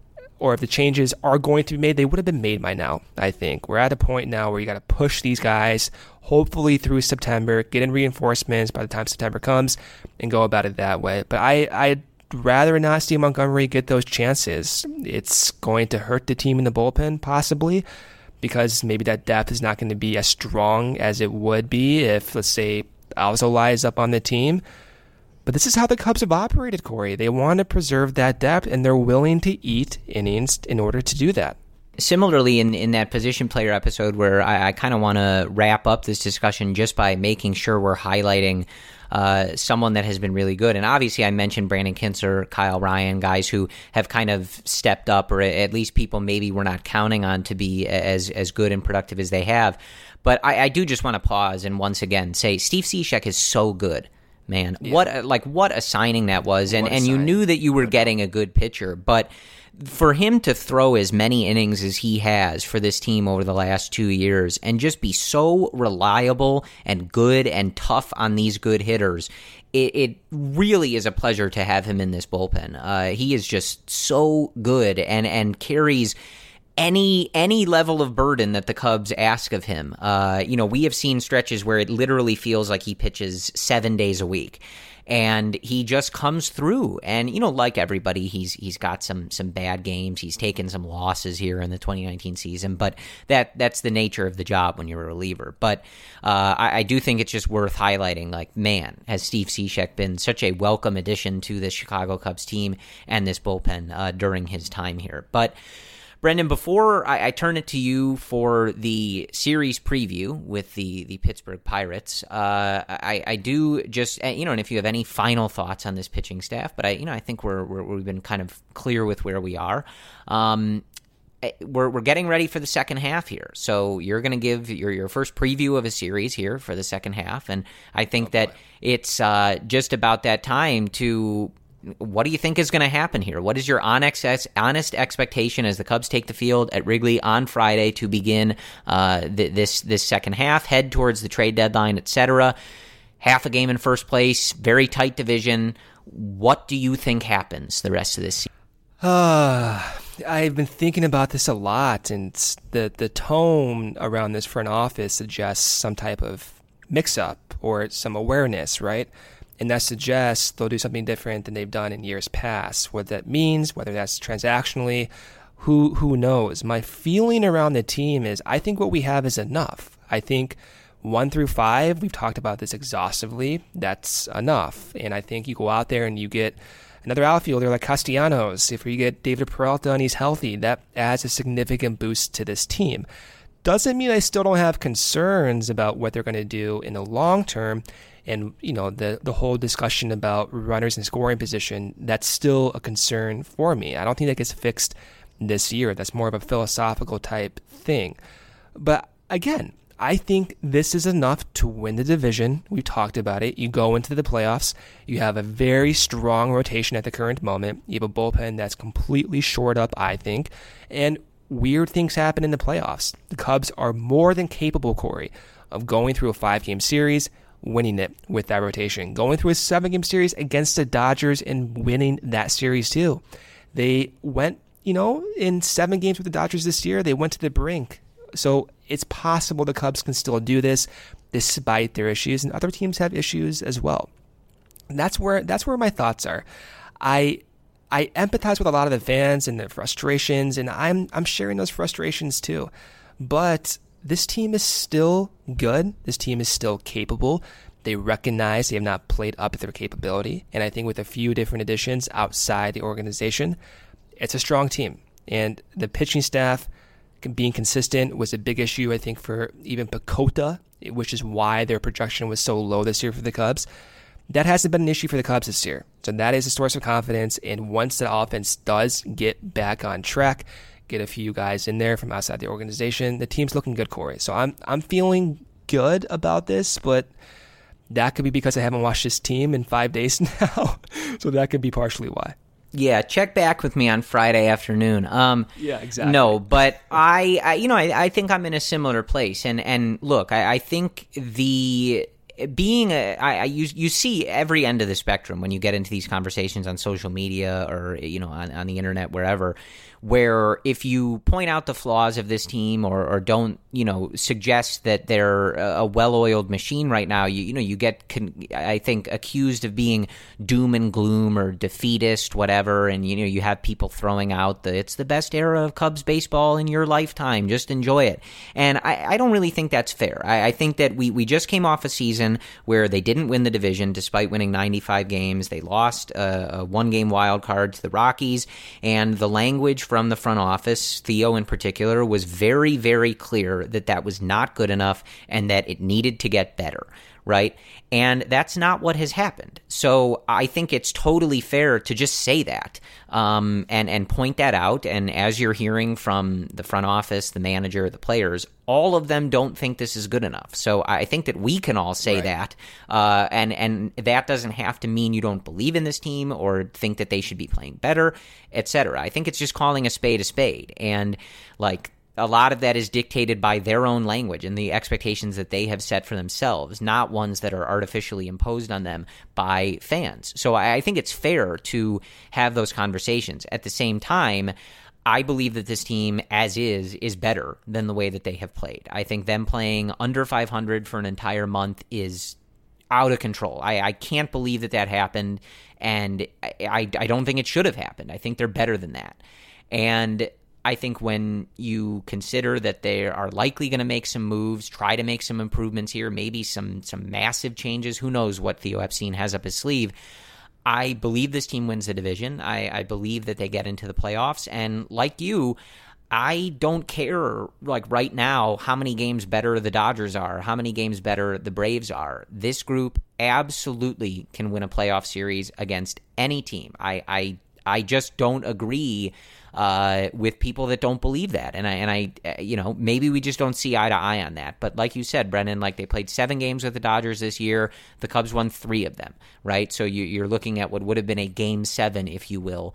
or if the changes are going to be made, they would have been made by now, I think. We're at a point now where you got to push these guys, hopefully through September, get in reinforcements by the time September comes, and go about it that way. But I'd rather not see Montgomery get those chances. It's going to hurt the team in the bullpen, possibly, because maybe that depth is not going to be as strong as it would be if, let's say, Alzolay is up on the team. But this is how the Cubs have operated, Corey. They want to preserve that depth, and they're willing to eat innings in order to do that. Similarly, in that position player episode where I kind of want to wrap up this discussion just by making sure we're highlighting someone that has been really good. And obviously I mentioned Brandon Kinzer, Kyle Ryan, guys who have kind of stepped up, or at least people maybe we're not counting on to be as good and productive as they have. But I do just want to pause and once again say Steve Cishek is so good. Man, yeah. What a signing that was. And you knew that you were getting a good pitcher, but for him to throw as many innings as he has for this team over the last 2 years and just be so reliable and good and tough on these good hitters, it really is a pleasure to have him in this bullpen. He is just so good and carries any level of burden that the Cubs ask of him. We have seen stretches where it literally feels like he pitches 7 days a week. And he just comes through. And, like everybody, he's got some bad games. He's taken some losses here in the 2019 season. But that's the nature of the job when you're a reliever. But I do think it's just worth highlighting, like, man, has Steve Cishek been such a welcome addition to the Chicago Cubs team and this bullpen during his time here. But Brendan, before I turn it to you for the series preview with the Pittsburgh Pirates, I do just, and if you have any final thoughts on this pitching staff, but I think we've been kind of clear with where we are. We're getting ready for the second half here, so you're going to give your first preview of a series here for the second half, and I think that it's just about that time to. What do you think is going to happen here? What is your honest expectation as the Cubs take the field at Wrigley on Friday to begin this second half, head towards the trade deadline, etc.? Half a game in first place, very tight division. What do you think happens the rest of this season? I've been thinking about this a lot, and the tone around this front office suggests some type of mix-up or some awareness, right? And that suggests they'll do something different than they've done in years past. What that means, whether that's transactionally, who knows? My feeling around the team is I think what we have is enough. I think 1 through 5, we've talked about this exhaustively, that's enough. And I think you go out there and you get another outfielder like Castellanos. If you get David Peralta and he's healthy, that adds a significant boost to this team. Doesn't mean I still don't have concerns about what they're going to do in the long term. And, the whole discussion about runners in scoring position, that's still a concern for me. I don't think that gets fixed this year. That's more of a philosophical type thing. But again, I think this is enough to win the division. We've talked about it. You go into the playoffs. You have a very strong rotation at the current moment. You have a bullpen that's completely shored up, I think. And weird things happen in the playoffs. The Cubs are more than capable, Corey, of going through a 5-game series, winning it with that rotation. Going through a 7-game series against the Dodgers and winning that series too. They went, in 7 games with the Dodgers this year, they went to the brink. So it's possible the Cubs can still do this despite their issues, and other teams have issues as well. And that's where my thoughts are. I empathize with a lot of the fans and their frustrations, and I'm sharing those frustrations too. But this team is still good. This team is still capable. They recognize they have not played up to their capability, and I think with a few different additions outside the organization, it's a strong team. And the pitching staff being consistent was a big issue, I think, for even PECOTA, which is why their projection was so low this year for the Cubs. That hasn't been an issue for the Cubs this year. So that is a source of confidence. And once the offense does get back on track, get a few guys in there from outside the organization, the team's looking good, Corey. So I'm feeling good about this, but that could be because I haven't watched this team in 5 days now. So that could be partially why. Yeah, check back with me on Friday afternoon. Yeah, exactly. No, but I think I'm in a similar place. And look, I think you see every end of the spectrum when you get into these conversations on social media or on the internet, wherever, where if you point out the flaws of this team or don't suggest that they're a well-oiled machine right now, you get I think accused of being doom and gloom or defeatist, whatever, and you have people throwing out it's the best era of Cubs baseball in your lifetime, just enjoy it. And I don't really think that's fair. I think that we just came off a season where they didn't win the division despite winning 95 games. They lost a 1-game wild card to the Rockies, and the language from the front office, Theo in particular, was very, very clear that was not good enough and that it needed to get better, right? And that's not what has happened. So I think it's totally fair to just say that and point that out. And as you're hearing from the front office, the manager, the players, all of them don't think this is good enough. So I think that we can all say that. And that doesn't have to mean you don't believe in this team or think that they should be playing better, etc. I think it's just calling a spade a spade. And a lot of that is dictated by their own language and the expectations that they have set for themselves, not ones that are artificially imposed on them by fans. So I think it's fair to have those conversations. At the same time, I believe that this team, as is better than the way that they have played. I think them playing under 500 for an entire month is out of control. I can't believe that happened, and I don't think it should have happened. I think they're better than that. And I think when you consider that they are likely going to make some moves, try to make some improvements here, maybe some massive changes, who knows what Theo Epstein has up his sleeve, I believe this team wins the division. I believe that they get into the playoffs. And like you, I don't care, right now, how many games better the Dodgers are, how many games better the Braves are. This group absolutely can win a playoff series against any team. I just don't agree with people that don't believe that. And I maybe we just don't see eye to eye on that. But like you said, Brendan, they played 7 games with the Dodgers this year. The Cubs won 3 of them, right? So you're looking at what would have been a Game 7, if you will,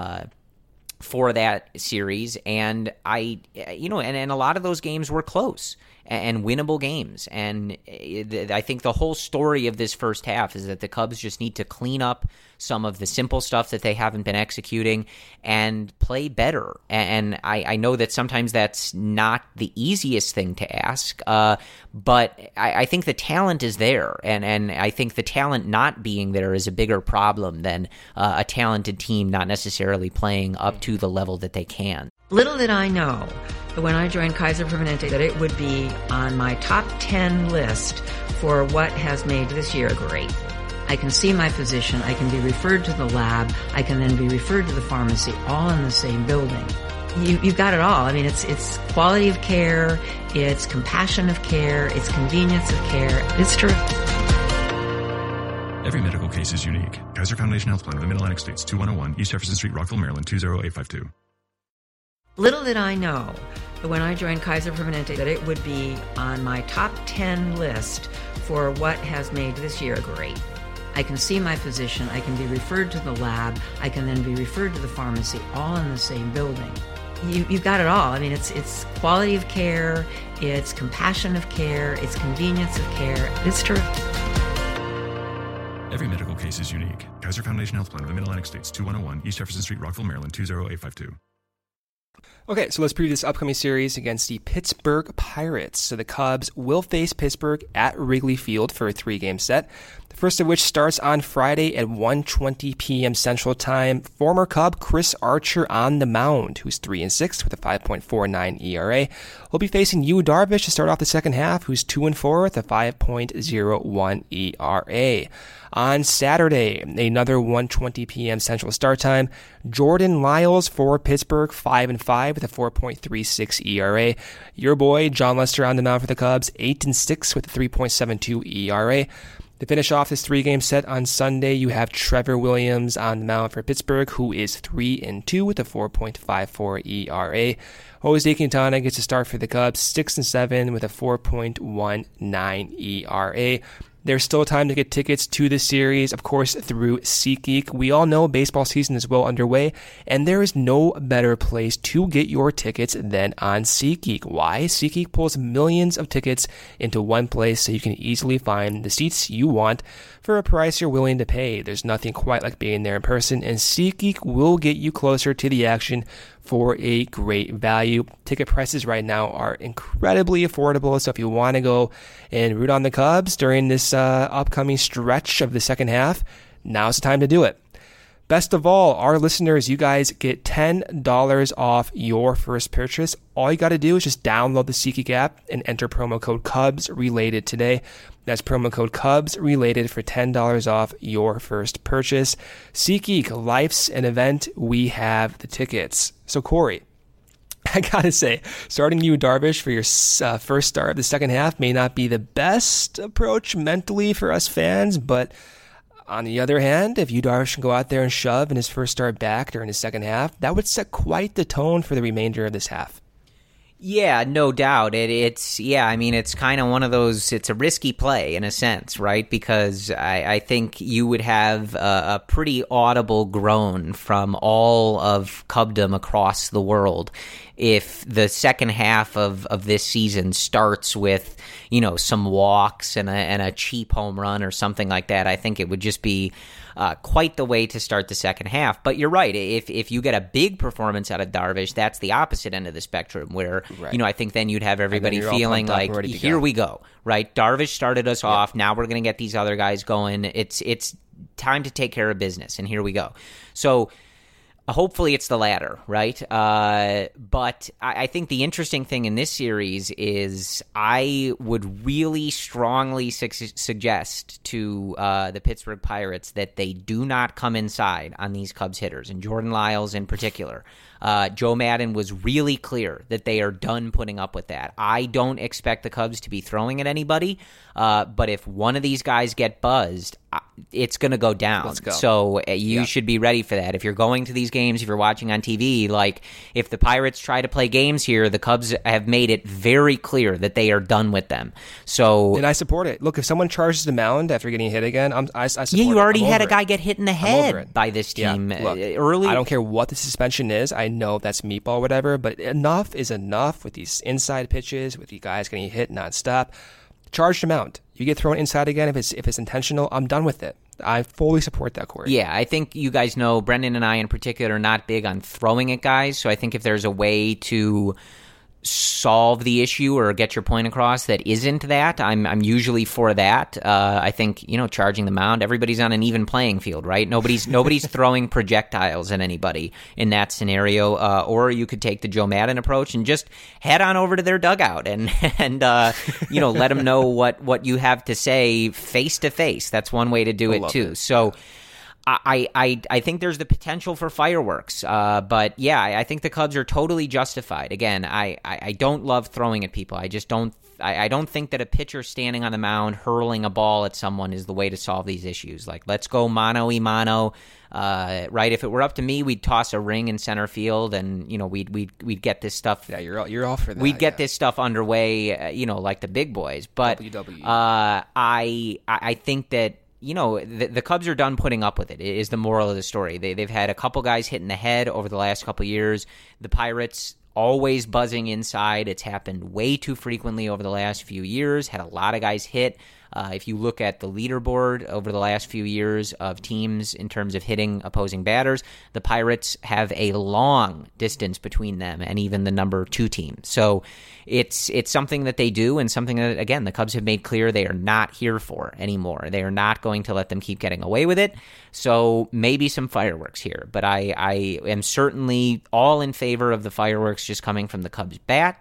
for that series. And and a lot of those games were close and winnable games. And I think the whole story of this first half is that the Cubs just need to clean up some of the simple stuff that they haven't been executing and play better. And I know that sometimes that's not the easiest thing to ask, but I think the talent is there. And I think the talent not being there is a bigger problem than a talented team not necessarily playing up to the level that they can. Little did I know when I joined Kaiser Permanente that it would be on my top 10 list for what has made this year great. I can see my physician, I can be referred to the lab, I can then be referred to the pharmacy, all in the same building. You've got it all. I mean, it's quality of care, it's compassion of care, it's convenience of care. It's terrific. Every medical case is unique. Kaiser Foundation Health Plan of the Mid-Atlantic States, 2101 East Jefferson Street, Rockville, Maryland, 20852. Little did I know when I joined Kaiser Permanente that it would be on my top 10 list for what has made this year great. I can see my physician, I can be referred to the lab, I can then be referred to the pharmacy, all in the same building. You've got it all. I mean, it's quality of care, it's compassion of care, it's convenience of care. It's terrific. Every medical case is unique. Kaiser Foundation Health Plan of the Mid-Atlantic States, 2101 East Jefferson Street, Rockville, Maryland, 20852. Okay, so let's preview this upcoming series against the Pittsburgh Pirates. So the Cubs will face Pittsburgh at Wrigley Field for a 3-game set. The first of which starts on Friday at 1:20 p.m. Central Time. Former Cub Chris Archer on the mound, who's 3-6 with a 5.49 ERA. Will be facing Yu Darvish to start off the second half, who's 2-4 with a 5.01 ERA. On Saturday, another 1:20 p.m. Central start time. Jordan Lyles for Pittsburgh, 5-5 with a 4.36 ERA. Your boy John Lester on the mound for the Cubs, 8-6 with a 3.72 ERA. To finish off this 3-game set on Sunday, you have Trevor Williams on the mound for Pittsburgh, who is 3-2 with a 4.54 ERA. Jose Quintana gets a start for the Cubs, 6-7 with a 4.19 ERA. There's still time to get tickets to the series, of course, through SeatGeek. We all know baseball season is well underway, and there is no better place to get your tickets than on SeatGeek. Why? SeatGeek pulls millions of tickets into one place so you can easily find the seats you want for a price you're willing to pay. There's nothing quite like being there in person, and SeatGeek will get you closer to the action for a great value. Ticket prices right now are incredibly affordable, so if you want to go and root on the Cubs during this upcoming stretch of the second half, now's the time to do it. Best of all, our listeners, you guys get $10 off your first purchase. All you got to do is just download the SeatGeek app and enter promo code CUBSRELATED today. That's promo code CUBSRELATED for $10 off your first purchase. SeatGeek, life's an event. We have the tickets. So, Corey, I got to say, starting Yu Darvish for your first start of the second half may not be the best approach mentally for us fans, but on the other hand, if Yu Darvish can go out there and shove in his first start back during the second half, that would set quite the tone for the remainder of this half. Yeah, no doubt. It's kind of one of those, it's a risky play in a sense, right? Because I think you would have a pretty audible groan from all of Cubdom across the world if the second half of this season starts with, some walks and a cheap home run or something like that. I think it would just be quite the way to start the second half. But you're right. If you get a big performance out of Darvish, that's the opposite end of the spectrum where, right. I think then you'd have everybody feeling like, here we go, right? Darvish started us off. Now we're going to get these other guys going. It's time to take care of business, and here we go. So hopefully it's the latter, right? But I think the interesting thing in this series is I would really strongly suggest to the Pittsburgh Pirates that they do not come inside on these Cubs hitters, and Jordan Lyles in particular. Joe Maddon was really clear that they are done putting up with that. I don't expect the Cubs to be throwing at anybody, but if one of these guys get buzzed, it's going to go down. Let's go. So you should be ready for that. If you're going to these games, if you're watching on TV, like if the Pirates try to play games here, the Cubs have made it very clear that they are done with them. So, and I support it. Look, if someone charges the mound after getting hit again, I support it. Yeah, you already had a guy get hit in the head by this team Look, early. I don't care what the suspension is. I know that's meatball, whatever, but enough is enough with these inside pitches, with you guys getting hit nonstop. Charge the mound. You get thrown inside again if it's intentional. I'm done with it. I fully support that, Corey. Yeah, I think you guys know, Brendan and I in particular are not big on throwing at guys, so I think if there's a way to solve the issue or get your point across that isn't that, I'm usually for that. I think, charging the mound, everybody's on an even playing field, right? Nobody's throwing projectiles at anybody in that scenario. Or you could take the Joe Maddon approach and just head on over to their dugout and let them know what you have to say face to face. That's one way to do it too. So I think there's the potential for fireworks, but yeah, I think the Cubs are totally justified. Again, I don't love throwing at people. I just don't. I don't think that a pitcher standing on the mound hurling a ball at someone is the way to solve these issues. Like, let's go mano-y-mano. Right? If it were up to me, we'd toss a ring in center field, and we'd get this stuff. Yeah, you're all for that. We'd get this stuff underway, like the big boys. But WWE. I think that the Cubs are done putting up with it. Is the moral of the story. They've had a couple guys hit in the head over the last couple years. The Pirates always buzzing inside. It's happened way too frequently over the last few years. Had a lot of guys hit. If you look at the leaderboard over the last few years of teams in terms of hitting opposing batters, the Pirates have a long distance between them and even the number 2 team. So it's something that they do, and something that, again, the Cubs have made clear they are not here for anymore. They are not going to let them keep getting away with it. So maybe some fireworks here, but I am certainly all in favor of the fireworks just coming from the Cubs bat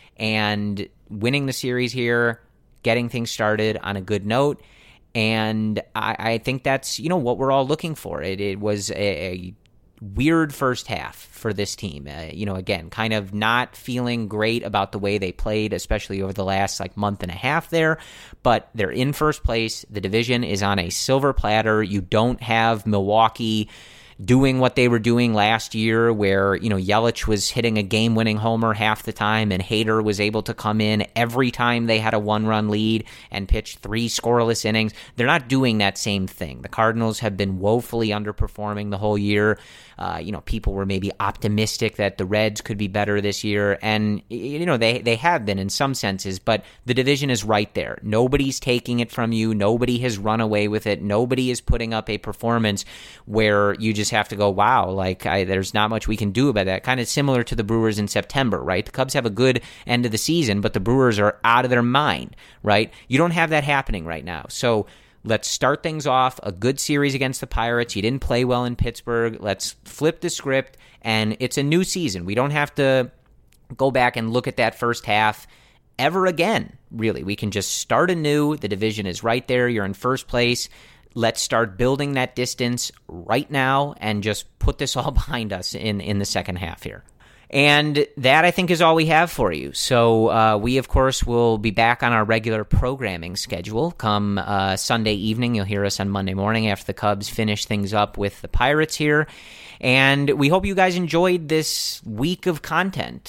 and winning the series here, getting things started on a good note. And I think that's, what we're all looking for. It was a weird first half for this team. Again, kind of not feeling great about the way they played, especially over the last month and a half there. But they're in first place. The division is on a silver platter. You don't have Milwaukee doing what they were doing last year, where, Yelich was hitting a game-winning homer half the time, and Hader was able to come in every time they had a 1-run lead and pitch 3 scoreless innings. They're not doing that same thing. The Cardinals have been woefully underperforming the whole year. People were maybe optimistic that the Reds could be better this year, and, they have been in some senses, but the division is right there. Nobody's taking it from you. Nobody has run away with it. Nobody is putting up a performance where you just have to go, wow, there's not much we can do about that. Kind of similar to the Brewers in September, right? The Cubs have a good end of the season, but the Brewers are out of their mind, right? You don't have that happening right now. So let's start things off, a good series against the Pirates. You didn't play well in Pittsburgh. Let's flip the script, and it's a new season. We don't have to go back and look at that first half ever again, really. We can just start anew. The division is right there. You're in first place. Let's start building that distance right now and just put this all behind us in the second half here. And that, I think, is all we have for you. So we, of course, will be back on our regular programming schedule come Sunday evening. You'll hear us on Monday morning after the Cubs finish things up with the Pirates here. And we hope you guys enjoyed this week of content.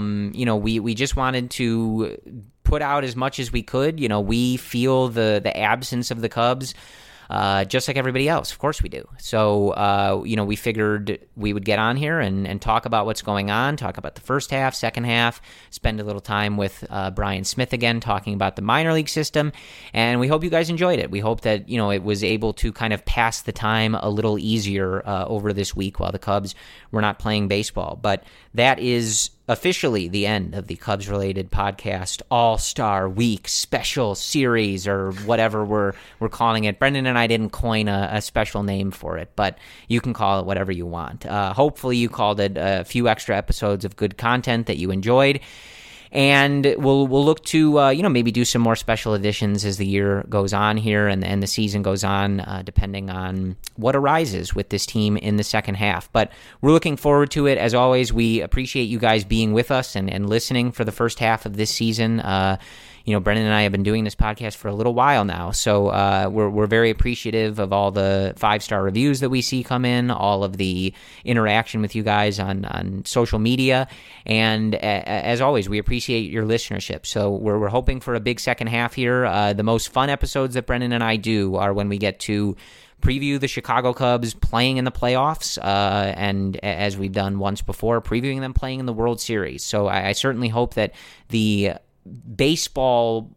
We just wanted to put out as much as we could. We feel the absence of the Cubs just like everybody else. Of course we do. So, we figured we would get on here and talk about what's going on, talk about the first half, second half, spend a little time with Brian Smith again, talking about the minor league system. And we hope you guys enjoyed it. We hope that, it was able to kind of pass the time a little easier over this week while the Cubs were not playing baseball. But that is officially the end of the Cubs-related podcast All-Star Week special series, or whatever we're calling it. Brendan and I didn't coin a special name for it, but you can call it whatever you want. Hopefully you called it a few extra episodes of good content that you enjoyed. And we'll look to, maybe do some more special editions as the year goes on here and the season goes on, depending on what arises with this team in the second half. But we're looking forward to it. As always, we appreciate you guys being with us and listening for the first half of this season. Brendan and I have been doing this podcast for a little while now, so we're very appreciative of all the 5-star reviews that we see come in, all of the interaction with you guys on social media, and as always, we appreciate your listenership. So we're hoping for a big second half here. The most fun episodes that Brendan and I do are when we get to preview the Chicago Cubs playing in the playoffs, and as we've done once before, previewing them playing in the World Series. So I certainly hope that the baseball,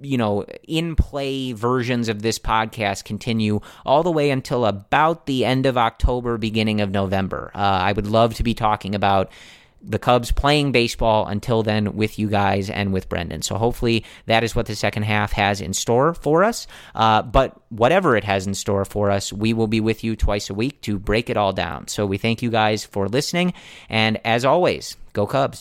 in-play versions of this podcast continue all the way until about the end of October, beginning of November. I would love to be talking about the Cubs playing baseball until then with you guys and with Brendan. So hopefully that is what the second half has in store for us. But whatever it has in store for us, we will be with you twice a week to break it all down. So we thank you guys for listening. And as always, go Cubs.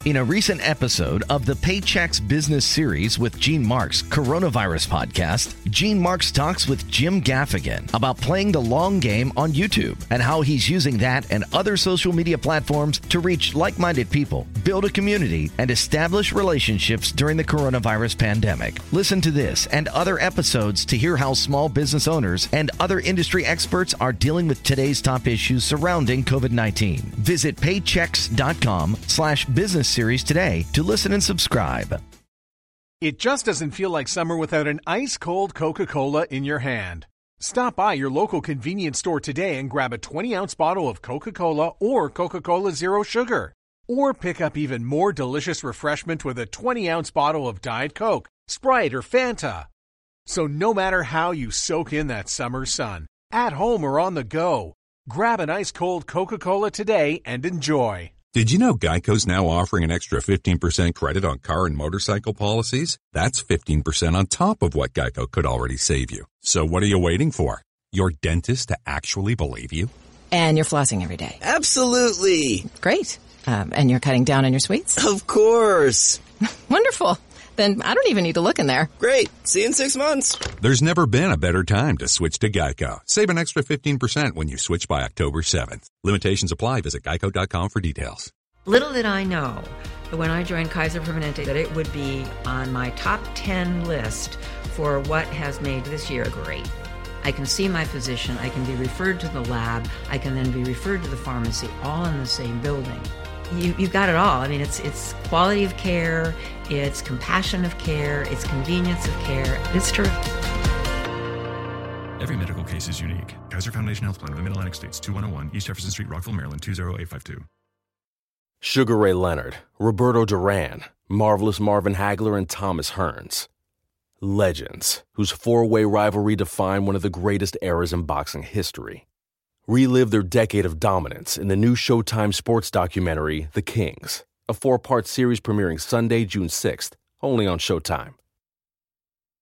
In a recent episode of the Paychex Business Series with Gene Marks Coronavirus Podcast, Gene Marks talks with Jim Gaffigan about playing the long game on YouTube and how he's using that and other social media platforms to reach like-minded people, build a community, and establish relationships during the coronavirus pandemic. Listen to this and other episodes to hear how small business owners and other industry experts are dealing with today's top issues surrounding COVID-19. Visit paychex.com/business series today to listen and subscribe. It just doesn't feel like summer without an ice-cold Coca-Cola in your hand. Stop by your local convenience store today and grab a 20-ounce bottle of Coca-Cola or Coca-Cola Zero Sugar. Or pick up even more delicious refreshment with a 20-ounce bottle of Diet Coke, Sprite, or Fanta. So no matter how you soak in that summer sun, at home or on the go, grab an ice-cold Coca-Cola today and enjoy. Did you know Geico's now offering an extra 15% credit on car and motorcycle policies? That's 15% on top of what Geico could already save you. So what are you waiting for? Your dentist to actually believe you? And you're flossing every day. Absolutely. Great. And you're cutting down on your sweets? Of course. Wonderful. Then I don't even need to look in there. Great. See you in 6 months. There's never been a better time to switch to Geico. Save an extra 15% when you switch by October 7th. Limitations apply. Visit geico.com for details. Little did I know that when I joined Kaiser Permanente that it would be on my top 10 list for what has made this year great. I can see my physician, I can be referred to the lab, I can then be referred to the pharmacy, all in the same building. You've got it all. I mean, it's quality of care, it's compassion of care, it's convenience of care. It's terrific. Every medical case is unique. Kaiser Foundation Health Plan of the Mid-Atlantic States, 2101 East Jefferson Street, Rockville, Maryland, 20852. Sugar Ray Leonard, Roberto Duran, Marvelous Marvin Hagler, and Thomas Hearns. Legends, whose four-way rivalry defined one of the greatest eras in boxing history. Relive their decade of dominance in the new Showtime sports documentary, The Kings, a 4-part series premiering Sunday, June 6th, only on Showtime.